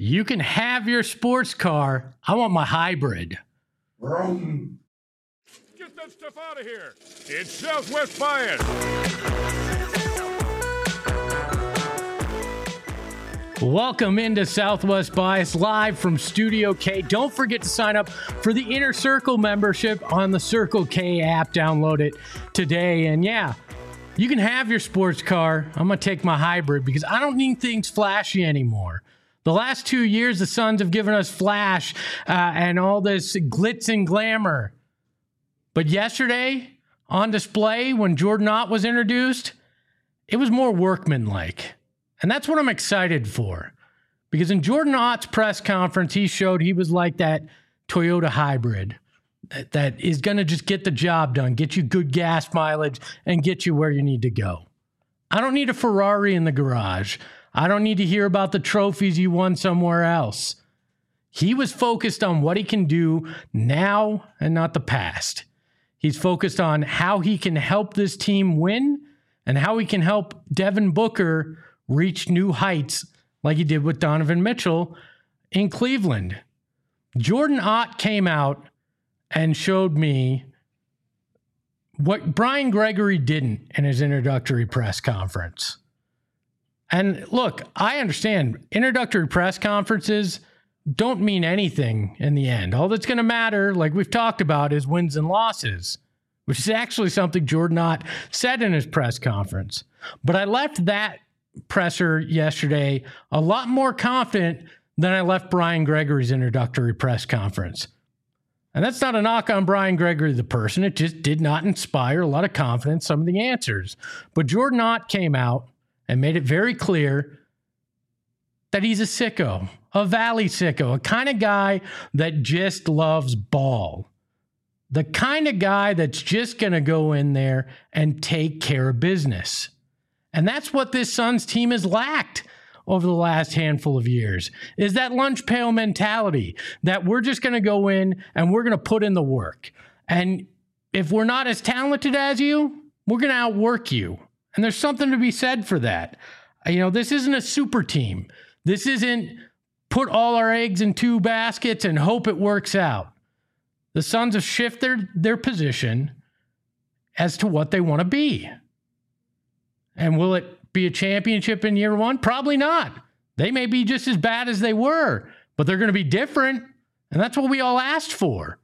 You can have your sports car. I want my hybrid. Vroom. Get that stuff out of here. It's Southwest Bias. Welcome into Southwest Bias live from Studio K. Don't forget to sign up for the Inner Circle membership on the Circle K app. Download it today. And yeah, you can have your sports car. I'm going to take my hybrid because I don't need things flashy anymore. The last 2 years, the Suns have given us flash and all this glitz and glamour. But yesterday, on display, when Jordan Ott was introduced, it was more workmanlike. And that's what I'm excited for. Because in Jordan Ott's press conference, he showed he was like that Toyota hybrid that is going to just get the job done, get you good gas mileage, and get you where you need to go. I don't need a Ferrari in the garage. I don't need to hear about the trophies you won somewhere else. He was focused on what he can do now and not the past. He's focused on how he can help this team win and how he can help Devin Booker reach new heights like he did with Donovan Mitchell in Cleveland. Jordan Ott came out and showed me what Brian Gregory didn't in his introductory press conference. And look, I understand introductory press conferences don't mean anything in the end. All that's going to matter, like we've talked about, is wins and losses, which is actually something Jordan Ott said in his press conference. But I left that presser yesterday a lot more confident than I left Brian Gregory's introductory press conference. And that's not a knock on Brian Gregory, the person. It just did not inspire a lot of confidence, some of the answers. But Jordan Ott came out and made it very clear that he's a sicko, a Valley sicko, a kind of guy that just loves ball. The kind of guy that's just going to go in there and take care of business. And that's what this Suns team has lacked over the last handful of years, is that lunch pail mentality that we're just going to go in and we're going to put in the work. And if we're not as talented as you, we're going to outwork you. And there's something to be said for that. You know, this isn't a super team. This isn't put all our eggs in two baskets and hope it works out. The Suns have shifted their position as to what they want to be. And will it be a championship in year one? Probably not. They may be just as bad as they were, but they're going to be different. And that's what we all asked for.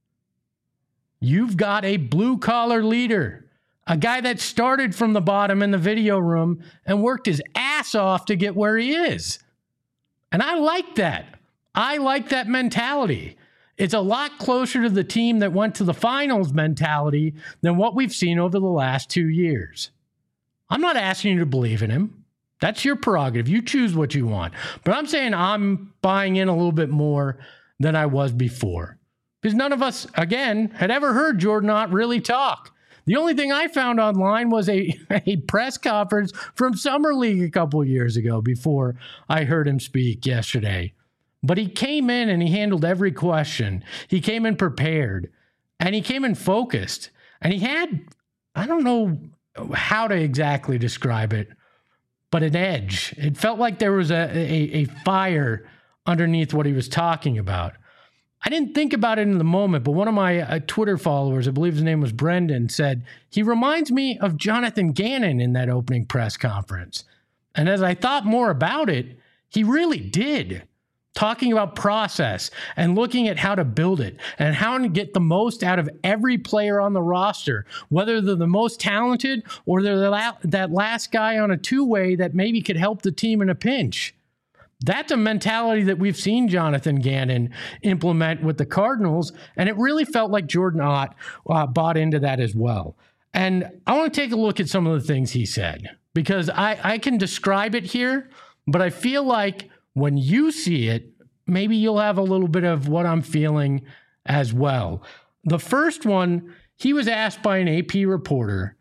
You've got a blue-collar leader, a guy that started from the bottom in the video room and worked his ass off to get where he is. And I like that. I like that mentality. It's a lot closer to the team that went to the finals mentality than what we've seen over the last 2 years. I'm not asking you to believe in him. That's your prerogative. You choose what you want. But I'm saying I'm buying in a little bit more than I was before. Because none of us, again, had ever heard Jordan Ott really talk. The only thing I found online was a press conference from Summer League a couple of years ago before I heard him speak yesterday. But he came in and he handled every question. He came in prepared and he came in focused. And he had, I don't know how to exactly describe it, but an edge. It felt like there was a fire underneath what he was talking about. I didn't think about it in the moment, but one of my Twitter followers, I believe his name was Brendan, said, he reminds me of Jonathan Gannon in that opening press conference. And as I thought more about it, he really did. Talking about process and looking at how to build it and how to get the most out of every player on the roster, whether they're the most talented or they're that last guy on a two-way that maybe could help the team in a pinch. That's a mentality that we've seen Jonathan Gannon implement with the Cardinals, and it really felt like Jordan Ott bought into that as well. And I want to take a look at some of the things he said, because I can describe it here, but I feel like when you see it, maybe you'll have a little bit of what I'm feeling as well. The first one, he was asked by an AP reporter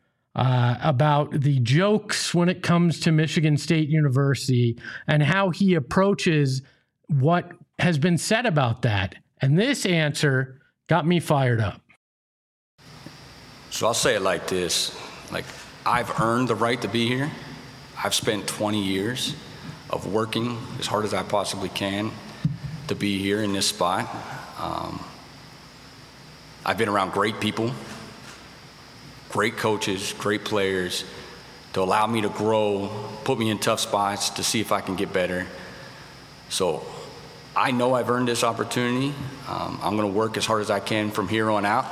about the jokes when it comes to Michigan State University and how he approaches what has been said about that. And this answer got me fired up. So I'll say it like this. Like, I've earned the right to be here. I've spent 20 years. of working as hard as I possibly can to be here in this spot. I've been around great people, great coaches, great players to allow me to grow, put me in tough spots to see if I can get better. So I know I've earned this opportunity. I'm going to work as hard as I can from here on out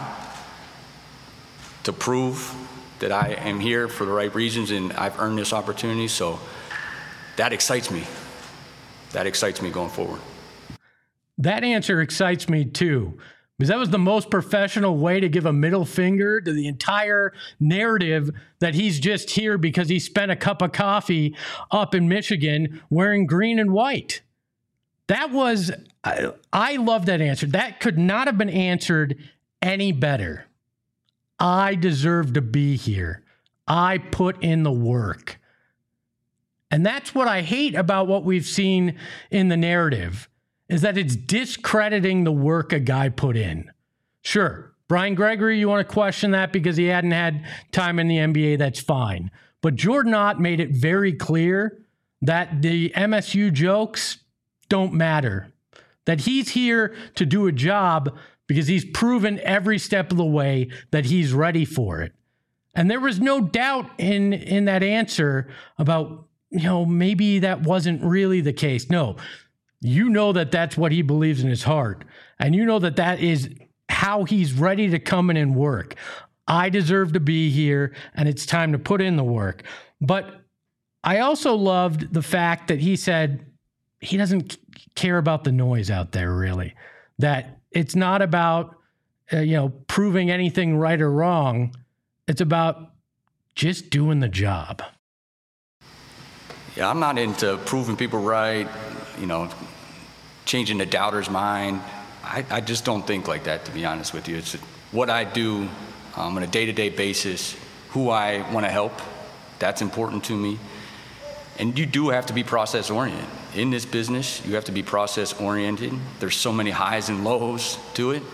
to prove that I am here for the right reasons and I've earned this opportunity. So that excites me. That excites me going forward. That answer excites me too, because that was the most professional way to give a middle finger to the entire narrative that he's just here because he spent a cup of coffee up in Michigan wearing green and white. That was, I love that answer. That could not have been answered any better. I deserve to be here. I put in the work. And that's what I hate about what we've seen in the narrative, is that it's discrediting the work a guy put in. Sure, Brian Gregory, you want to question that because he hadn't had time in the NBA, that's fine. But Jordan Ott made it very clear that the MSU jokes don't matter, that he's here to do a job because he's proven every step of the way that he's ready for it. And there was no doubt in that answer about, maybe that wasn't really the case. No, you know that that's what he believes in his heart. And you know that that is how he's ready to come in and work. I deserve to be here, and it's time to put in the work. But I also loved the fact that he said he doesn't care about the noise out there, really. That it's not about, proving anything right or wrong. It's about just doing the job. Yeah, I'm not into proving people right, changing the doubter's mind. I just don't think like that, to be honest with you. It's what I do on a day-to-day basis, who I want to help. That's important to me. And you do have to be process-oriented. In this business, you have to be process-oriented. There's so many highs and lows to it.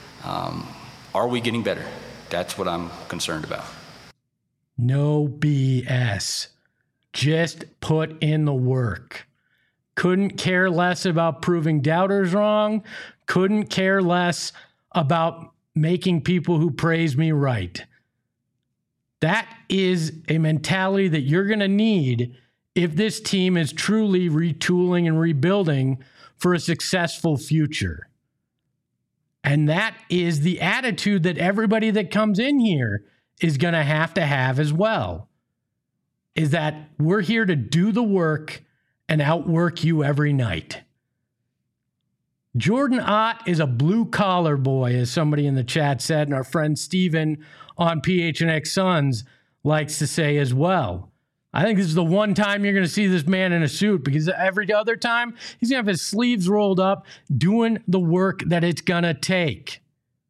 Are we getting better? That's what I'm concerned about. No BS. Just put in the work. Couldn't care less about proving doubters wrong. Couldn't care less about making people who praise me right. That is a mentality that you're going to need if this team is truly retooling and rebuilding for a successful future. And that is the attitude that everybody that comes in here is going to have as well. Is that we're here to do the work and outwork you every night. Jordan Ott is a blue-collar boy, as somebody in the chat said, and our friend Steven on PHNX Suns likes to say as well. I think this is the one time you're going to see this man in a suit, because every other time he's going to have his sleeves rolled up doing the work that it's going to take.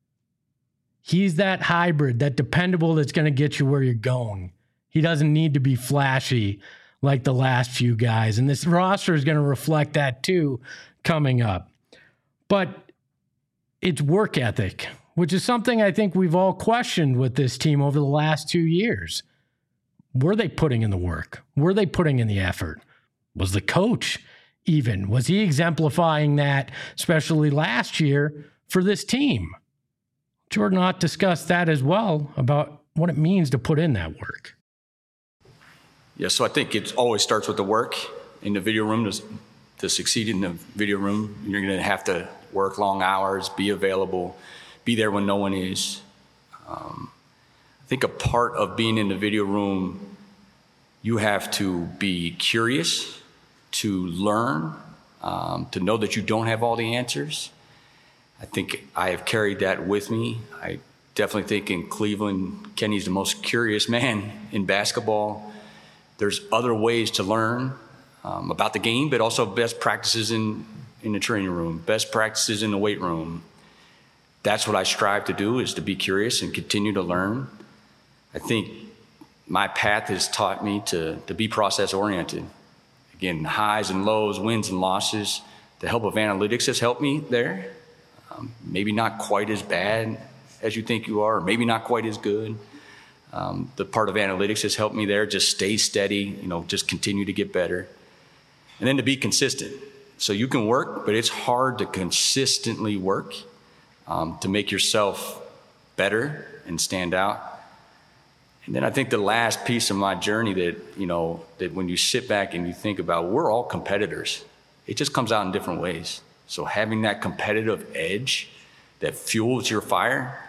He's that hybrid, that dependable that's going to get you where you're going. He doesn't need to be flashy like the last few guys. And this roster is going to reflect that too coming up. But it's work ethic, which is something I think we've all questioned with this team over the last 2 years. Were they putting in the work? Were they putting in the effort? Was the coach even? Was he exemplifying that, especially last year, for this team? Jordan Ott discussed that as well, about what it means to put in that work. Yeah, so I think it always starts with the work in the video room. To succeed in the video room, you're going to have to work long hours, be available, be there when no one is. I think a part of being in the video room, you have to be curious, to learn, to know that you don't have all the answers. I think I have carried that with me. I definitely think in Cleveland, Kenny's the most curious man in basketball. There's other ways to learn about the game, but also best practices in the training room, best practices in the weight room. That's what I strive to do, is to be curious and continue to learn. I think my path has taught me to be process-oriented. Again, highs and lows, wins and losses. The help of analytics has helped me there. Maybe not quite as bad as you think you are, or maybe not quite as good. The part of analytics has helped me there. Just stay steady, just continue to get better. And then to be consistent. So you can work, but it's hard to consistently work to make yourself better and stand out. And then I think the last piece of my journey that when you sit back and you think about, we're all competitors. It just comes out in different ways. So having that competitive edge that fuels your fire,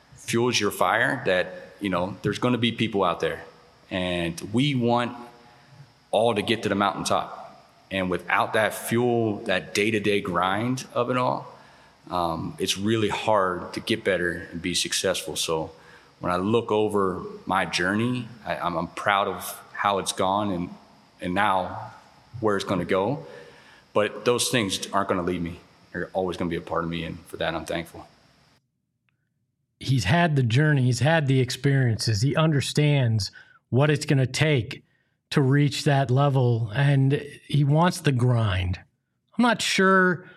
that, there's going to be people out there. And we want all to get to the mountaintop. And without that fuel, that day-to-day grind of it all, it's really hard to get better and be successful. So when I look over my journey, I'm proud of how it's gone and now where it's going to go. But those things aren't going to leave me. They're always going to be a part of me, and for that, I'm thankful. He's had the journey. He's had the experiences. He understands what it's going to take to reach that level, and he wants the grind. I'm not sure,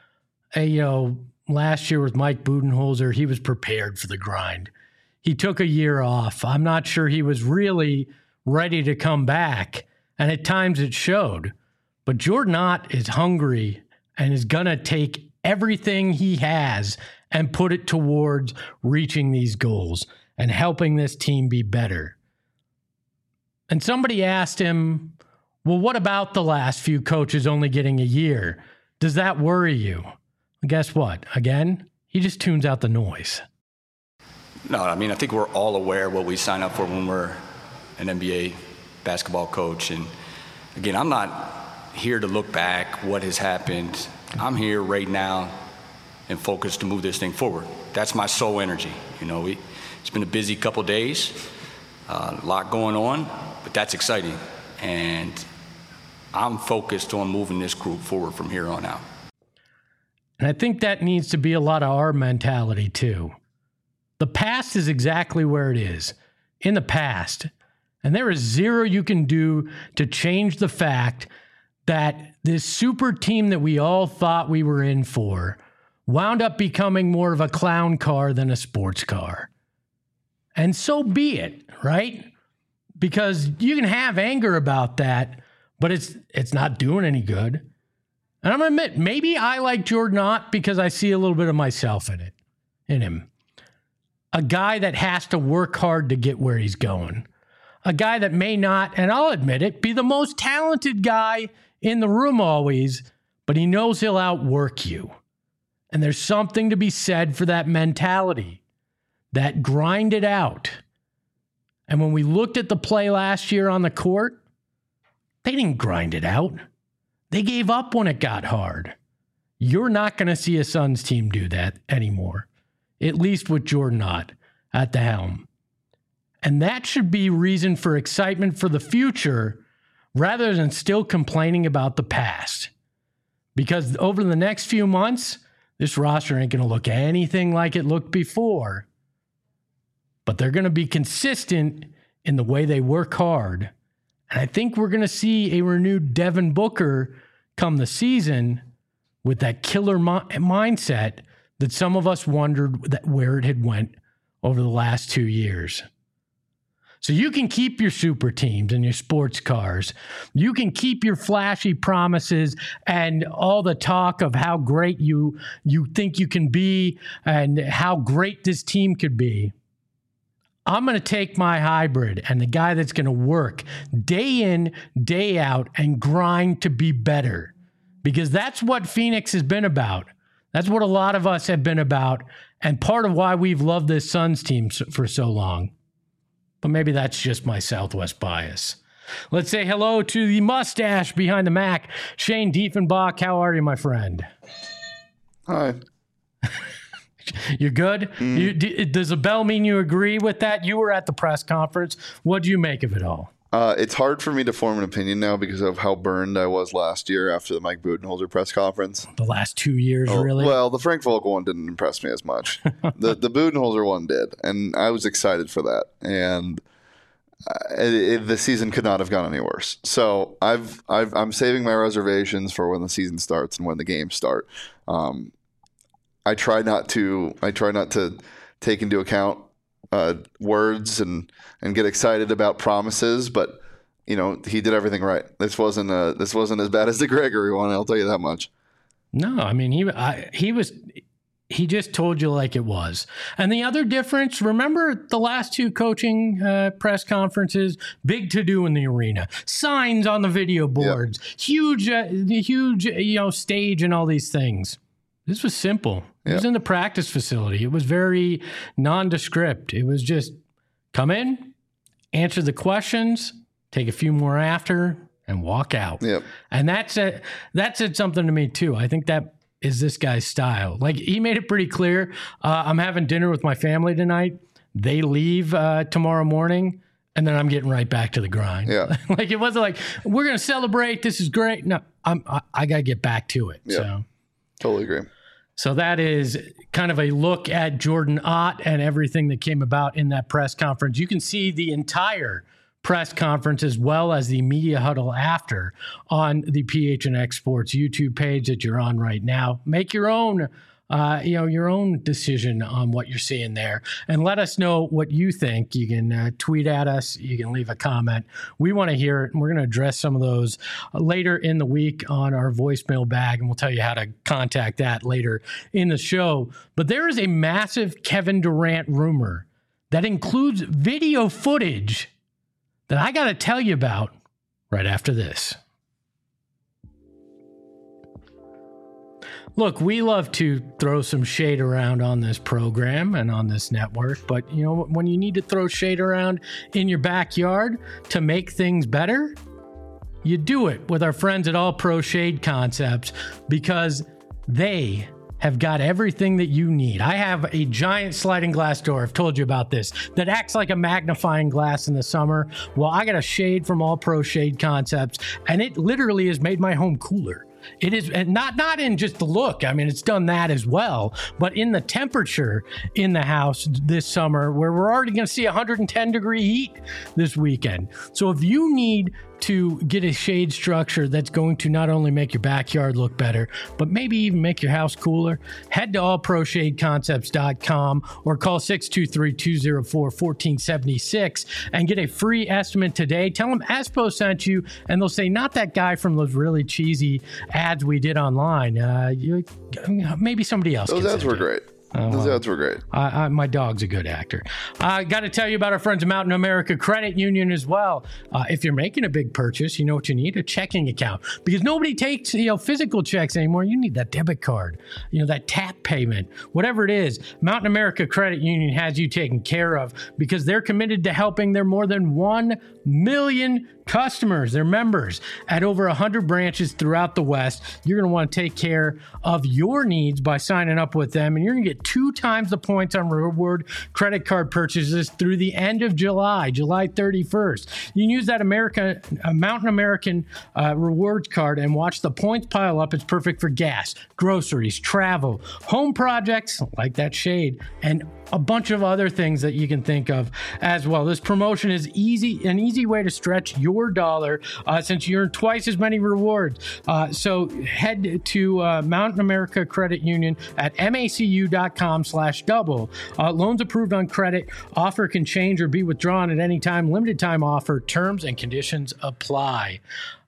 last year with Mike Budenholzer, he was prepared for the grind. He took a year off. I'm not sure he was really ready to come back, and at times it showed. But Jordan Ott is hungry and is going to take everything he has and put it towards reaching these goals and helping this team be better. And somebody asked him, well, what about the last few coaches only getting a year? Does that worry you? And guess what? Again, he just tunes out the noise. No, I think we're all aware of what we sign up for when we're an NBA basketball coach. And again, I'm not here to look back what has happened. I'm here right now and focused to move this thing forward. That's my sole energy. It's been a busy couple days, a lot going on, but that's exciting. And I'm focused on moving this group forward from here on out. And I think that needs to be a lot of our mentality too. The past is exactly where it is, in the past. And there is zero you can do to change the fact that this super team that we all thought we were in for wound up becoming more of a clown car than a sports car. And so be it, right? Because you can have anger about that, but it's not doing any good. And I'm going to admit, maybe I like Jordan Ott because I see a little bit of myself in him. A guy that has to work hard to get where he's going. A guy that may not, and I'll admit it, be the most talented guy in the room always, but he knows he'll outwork you. And there's something to be said for that mentality, that grind it out. And when we looked at the play last year on the court, they didn't grind it out. They gave up when it got hard. You're not going to see a Suns team do that anymore, at least with Jordan Ott at the helm. And that should be reason for excitement for the future rather than still complaining about the past. Because over the next few months, this roster ain't going to look anything like it looked before. But they're going to be consistent in the way they work hard. And I think we're going to see a renewed Devin Booker come the season with that killer mindset that some of us wondered where it had went over the last 2 years. So you can keep your super teams and your sports cars. You can keep your flashy promises and all the talk of how great you think you can be and how great this team could be. I'm going to take my hybrid and the guy that's going to work day in, day out and grind to be better. Because that's what Phoenix has been about. That's what a lot of us have been about. And part of why we've loved this Suns team for so long. But maybe that's just my Southwest bias. Let's say hello to the mustache behind the Mac, Shane Diefenbach. How are you, my friend? Hi. You're good? Does a bell mean you agree with that? You were at the press conference. What do you make of it all? It's hard for me to form an opinion now because of how burned I was last year after the Mike Budenholzer press conference. The last 2 years, really? Well, the Frank Vogel one didn't impress me as much. The Budenholzer one did, and I was excited for that. And the season could not have gone any worse. So I'm saving my reservations for when the season starts and when the games start. I try not to take into account words and get excited about promises, but he did everything right. This wasn't as bad as the Gregory one. I'll tell you that much. No, I mean, he just told you like it was. And the other difference, remember the last two coaching press conferences, big to do in the arena, signs on the video boards, huge, stage and all these things. This was simple. It was in the practice facility. It was very nondescript. It was just come in, answer the questions, take a few more after, and walk out. Yep. And that said something to me too. I think that is this guy's style. Like, he made it pretty clear. I'm having dinner with my family tonight. They leave tomorrow morning, and then I'm getting right back to the grind. Yeah. Like, it wasn't like, we're going to celebrate. This is great. No, I got to get back to it. Yeah. So Totally agree. So that is kind of a look at Jordan Ott and everything that came about in that press conference. You can see the entire press conference as well as the media huddle after on the PHNX Sports YouTube page that you're on right now. Make your own your own decision on what you're seeing there, and let us know what you think. You can tweet at us. You can leave a comment. We want to hear it, and we're going to address some of those later in the week on our voicemail bag, and we'll tell you how to contact that later in the show. But there is a massive Kevin Durant rumor that includes video footage that I got to tell you about right after this. Look, we love to throw some shade around on this program and on this network, but when you need to throw shade around in your backyard to make things better, you do it with our friends at All Pro Shade Concepts, because they have got everything that you need. I have a giant sliding glass door, I've told you about this, that acts like a magnifying glass in the summer. Well, I got a shade from All Pro Shade Concepts, and it literally has made my home cooler. It is not in just the look. I mean, it's done that as well, but in the temperature in the house this summer, where we're already going to see 110 degree heat this weekend. So if you need to get a shade structure that's going to not only make your backyard look better, but maybe even make your house cooler, head to allproshadeconcepts.com or call 623-204-1476 and get a free estimate today. Tell them Espo sent you, and they'll say, not that guy from those really cheesy ads we did online. Maybe somebody else. Those ads were great. Those ads were great. My dog's a good actor. I got to tell you about our friends at Mountain America Credit Union as well. If you're making a big purchase, you know what you need? A checking account. Because nobody takes physical checks anymore. You need that debit card, that tap payment, whatever it is. Mountain America Credit Union has you taken care of, because they're committed to helping their more than 1 million customers, their members, at over 100 branches throughout the West. You're going to want to take care of your needs by signing up with them, and you're going to get 2 times the points on reward credit card purchases through the end of July 31st. You can use that Mountain American rewards card and watch the points pile up. It's perfect for gas, groceries, travel, home projects like that shade, and a bunch of other things that you can think of as well. This promotion is an easy way to stretch your dollar since you earn twice as many rewards. So head to Mountain America Credit Union at macu.com/double. Loans approved on credit. Offer can change or be withdrawn at any time. Limited time offer. Terms and conditions apply.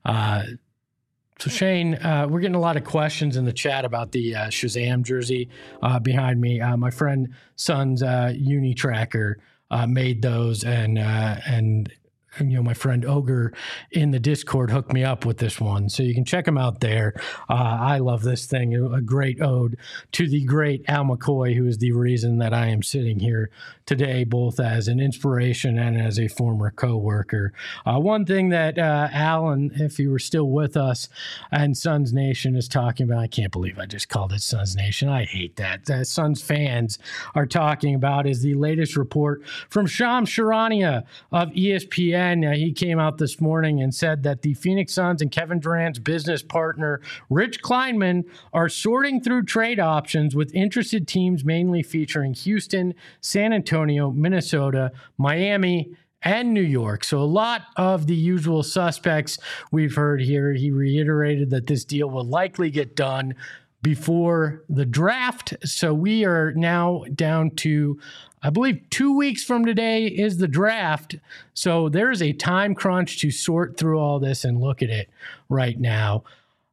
So Shane, we're getting a lot of questions in the chat about the Shazam jersey behind me. My friend Son's Uni Tracker made those, and my friend Ogre in the Discord hooked me up with this one. So you can check them out there. I love this thing. A great ode to the great Al McCoy, who is the reason that I am sitting here today, both as an inspiration and as a former co-worker. One thing that Alan, if he were still with us, and Suns Nation is talking about, I can't believe I just called it Suns Nation. I hate that. Suns fans are talking about is the latest report from Shams Charania of ESPN. He came out this morning and said that the Phoenix Suns and Kevin Durant's business partner, Rich Kleinman, are sorting through trade options with interested teams mainly featuring Houston, San Antonio, Minnesota, Miami, and New York. So a lot of the usual suspects we've heard here. He reiterated that this deal will likely get done before the draft. So we are now down to I believe 2 weeks from today is the draft. So there's a time crunch to sort through all this and look at it right now.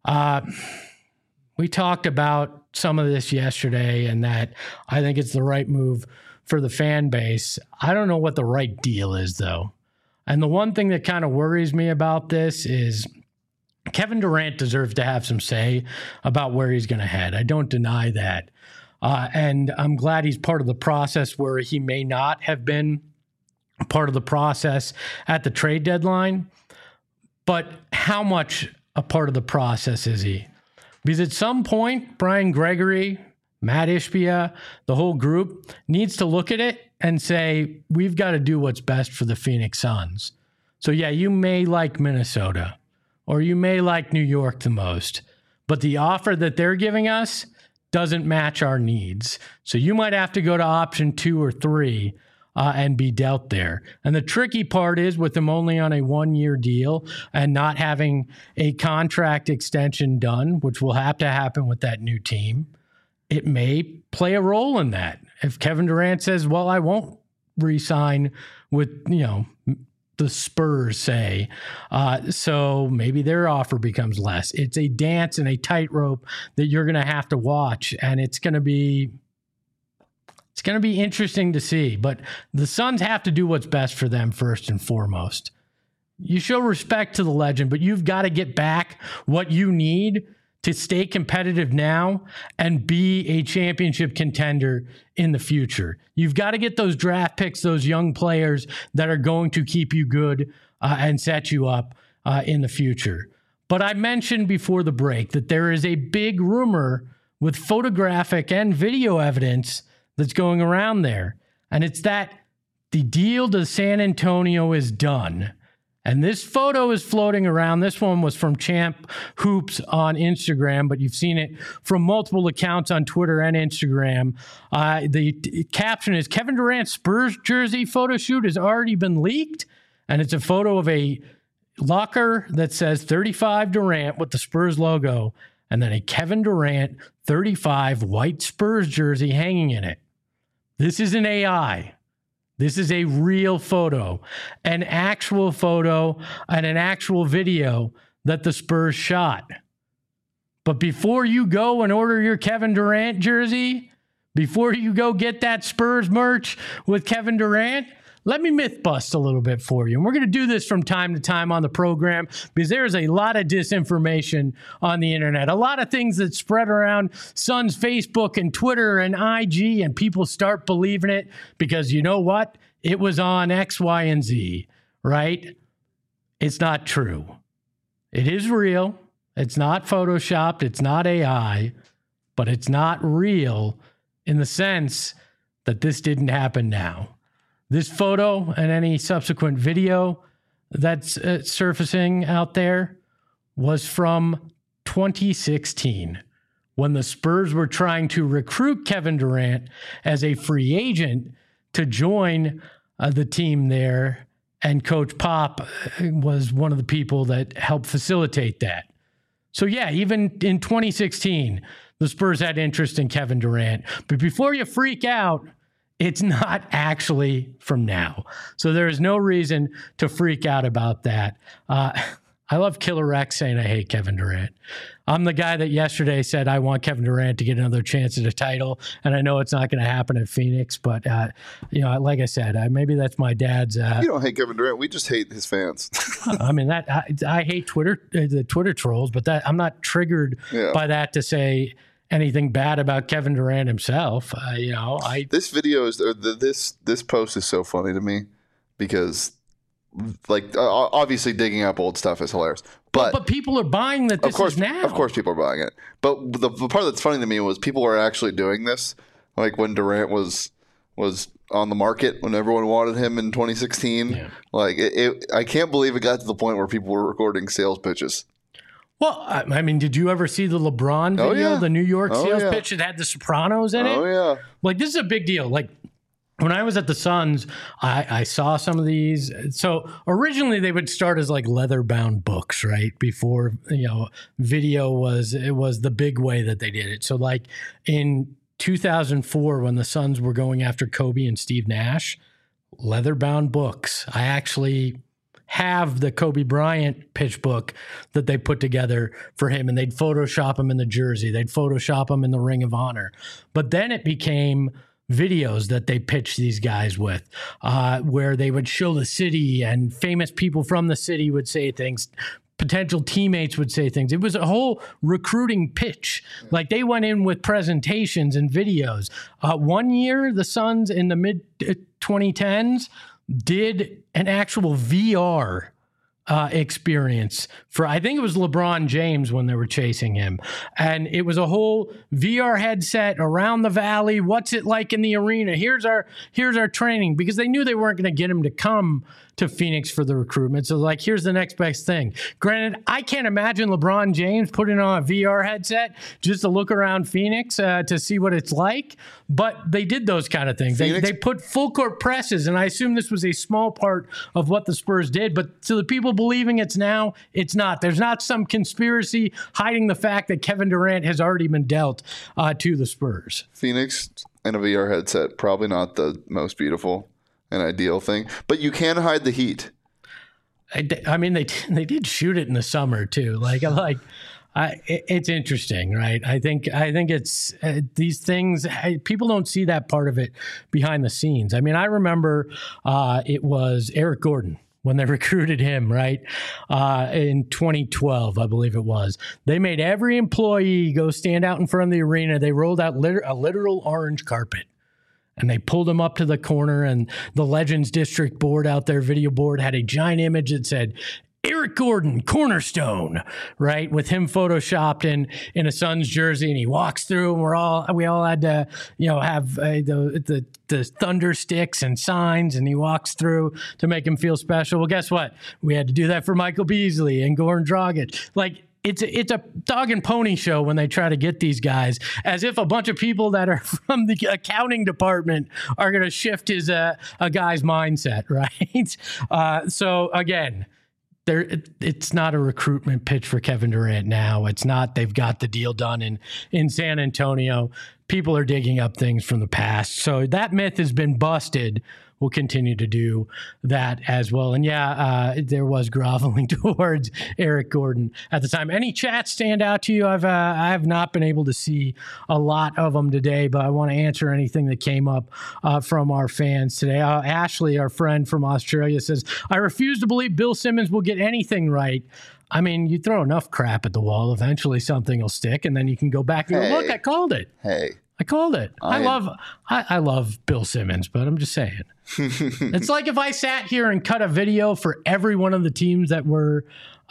We talked about some of this yesterday and that I think it's the right move for the fan base. I don't know what the right deal is, though. And the one thing that kind of worries me about this is Kevin Durant deserves to have some say about where he's going to head. I don't deny that. And I'm glad he's part of the process where he may not have been part of the process at the trade deadline. But how much a part of the process is he? Because at some point, Brian Gregory, Matt Ishbia, the whole group needs to look at it and say, we've got to do what's best for the Phoenix Suns. So yeah, you may like Minnesota or you may like New York the most, but the offer that they're giving us doesn't match our needs. So you might have to go to option 2 or 3 and be dealt there. And the tricky part is with him only on a 1-year deal and not having a contract extension done, which will have to happen with that new team, it may play a role in that. If Kevin Durant says, well, I won't re-sign with, the Spurs, say, so maybe their offer becomes less. It's a dance and a tightrope that you're going to have to watch, and it's going to be interesting to see. But the Suns have to do what's best for them first and foremost. You show respect to the legend, but you've got to get back what you need to stay competitive now and be a championship contender in the future. You've got to get those draft picks, those young players that are going to keep you good and set you up in the future. But I mentioned before the break that there is a big rumor with photographic and video evidence that's going around there. And it's that the deal to San Antonio is done. And this photo is floating around. This one was from Champ Hoops on Instagram, but you've seen it from multiple accounts on Twitter and Instagram. The caption is, Kevin Durant's Spurs jersey photo shoot has already been leaked. And it's a photo of a locker that says 35 Durant with the Spurs logo, and then a Kevin Durant 35 white Spurs jersey hanging in it. This is an AI. This is a real photo, an actual photo and an actual video that the Spurs shot. But before you go and order your Kevin Durant jersey, before you go get that Spurs merch with Kevin Durant, let me myth bust a little bit for you. And we're going to do this from time to time on the program because there's a lot of disinformation on the internet, a lot of things that spread around Suns Facebook and Twitter and IG, and people start believing it because you know what? It was on X, Y, and Z, right? It's not true. It is real. It's not Photoshopped. It's not AI, but it's not real in the sense that this didn't happen now. This photo and any subsequent video that's surfacing out there was from 2016 when the Spurs were trying to recruit Kevin Durant as a free agent to join the team there. And Coach Pop was one of the people that helped facilitate that. So yeah, even in 2016, the Spurs had interest in Kevin Durant. But before you freak out, it's not actually from now. So there is no reason to freak out about that. I love Killer X saying I hate Kevin Durant. I'm the guy that yesterday said I want Kevin Durant to get another chance at a title, and I know it's not going to happen at Phoenix, but like I said, maybe that's my dad's. You don't hate Kevin Durant. We just hate his fans. I mean, I hate Twitter, the Twitter trolls, but that I'm not triggered by that to say anything bad about Kevin Durant himself. This video is this post is so funny to me because, obviously digging up old stuff is hilarious. But people are buying that this is now. Of course, people are buying it. But the part that's funny to me was people were actually doing this, like when Durant was on the market when everyone wanted him in 2016. Yeah. I can't believe it got to the point where people were recording sales pitches. Well, I mean, did you ever see the LeBron video, the New York sales pitch that had the Sopranos in it? Oh, yeah. This is a big deal. When I was at the Suns, I saw some of these. So originally they would start as leather-bound books, right? Before, video was the big way that they did it. So in 2004, when the Suns were going after Kobe and Steve Nash, leather-bound books. I actually have the Kobe Bryant pitch book that they put together for him, and they'd Photoshop him in the jersey. They'd Photoshop him in the Ring of Honor. But then it became videos that they pitched these guys with, where they would show the city and famous people from the city would say things. Potential teammates would say things. It was a whole recruiting pitch. Like, they went in with presentations and videos. One year, the Suns in the mid 2010s did an actual VR experience for, I think it was LeBron James when they were chasing him. And it was a whole VR headset around the valley. What's it like in the arena? Here's our training, because they knew they weren't going to get him to come to Phoenix for the recruitment. So, like, here's the next best thing. Granted, I can't imagine LeBron James putting on a VR headset just to look around Phoenix to see what it's like. But they did those kind of things. They put full court presses, and I assume this was a small part of what the Spurs did. But to the people believing it's now, it's not. There's not some conspiracy hiding the fact that Kevin Durant has already been dealt to the Spurs. Phoenix and a VR headset, probably not the most beautiful and ideal thing, but you can hide the heat. I mean, they did shoot it in the summer too. It's interesting, right? I think it's these things. People don't see that part of it behind the scenes. I mean, I remember it was Eric Gordon when they recruited him, right? In 2012, I believe it was. They made every employee go stand out in front of the arena. They rolled out a literal orange carpet. And they pulled him up to the corner, and the Legends District board out there, video board, had a giant image that said, Eric Gordon, cornerstone, right? With him photoshopped in a Suns jersey, and he walks through, and we all had to, have the thunder sticks and signs, and he walks through to make him feel special. Well, guess what? We had to do that for Michael Beasley and Goran Dragic. Like, it's a dog and pony show when they try to get these guys, as if a bunch of people that are from the accounting department are going to shift a guy's mindset, right? So again, it's not a recruitment pitch for Kevin Durant now. It's not. They've got the deal done in San Antonio. People are digging up things from the past. So that myth has been busted. We'll continue to do that as well. And there was groveling towards Eric Gordon at the time. Any chats stand out to you? I have not been able to see a lot of them today, but I want to answer anything that came up from our fans today. Ashley, our friend from Australia, says, I refuse to believe Bill Simmons will get anything right. I mean, you throw enough crap at the wall, eventually something will stick, and then you can go back and go, look, I called it. I called it. I love Bill Simmons, but I'm just saying. It's like if I sat here and cut a video for every one of the teams that were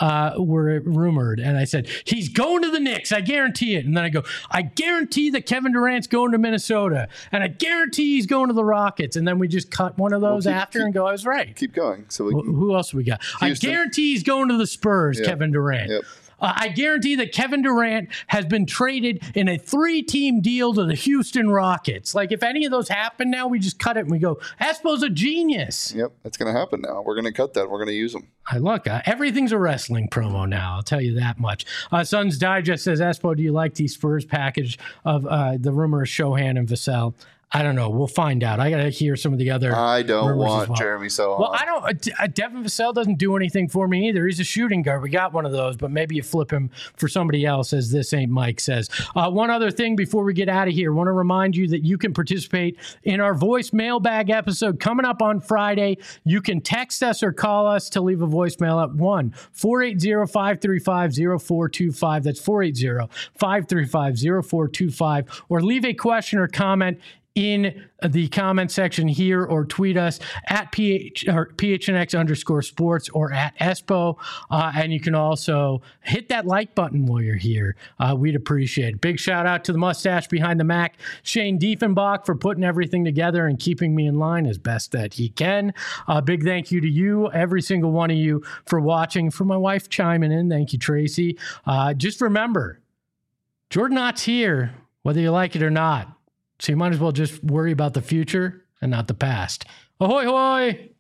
rumored, and I said, he's going to the Knicks, I guarantee it. And then I go, I guarantee that Kevin Durant's going to Minnesota, and I guarantee he's going to the Rockets. And then we just cut one of those and go, I was right. Keep going. So who else we got? Houston. I guarantee he's going to the Spurs, Kevin Durant. Yep. I guarantee that Kevin Durant has been traded in a 3-team deal to the Houston Rockets. Like, if any of those happen now, we just cut it and we go, Espo's a genius. Yep, that's going to happen now. We're going to cut that. We're going to use them. Look, everything's a wrestling promo now. I'll tell you that much. Suns Digest says, Espo, do you like the Spurs package of the rumor of Shohan and Vassell? I don't know. We'll find out. I got to hear some of the other. I don't want Jeremy Sohan. Well, I don't. Devin Vassell doesn't do anything for me either. He's a shooting guard. We got one of those, but maybe you flip him for somebody else, as This Ain't Mike says. One other thing before we get out of here, I want to remind you that you can participate in our voice mailbag episode coming up on Friday. You can text us or call us to leave a voicemail at 1-480-535-0425. That's 480-535-0425. Or leave a question or comment in the comment section here, or tweet us at PHNX_sports or at Espo. And you can also hit that like button while you're here. We'd appreciate it. Big shout out to the mustache behind the Mac, Shane Diefenbach, for putting everything together and keeping me in line as best that he can. Big thank you to you, every single one of you, for watching. For my wife chiming in, thank you, Tracy. Just remember, Jordan Knott's here, whether you like it or not. So you might as well just worry about the future and not the past. Ahoy, hoy!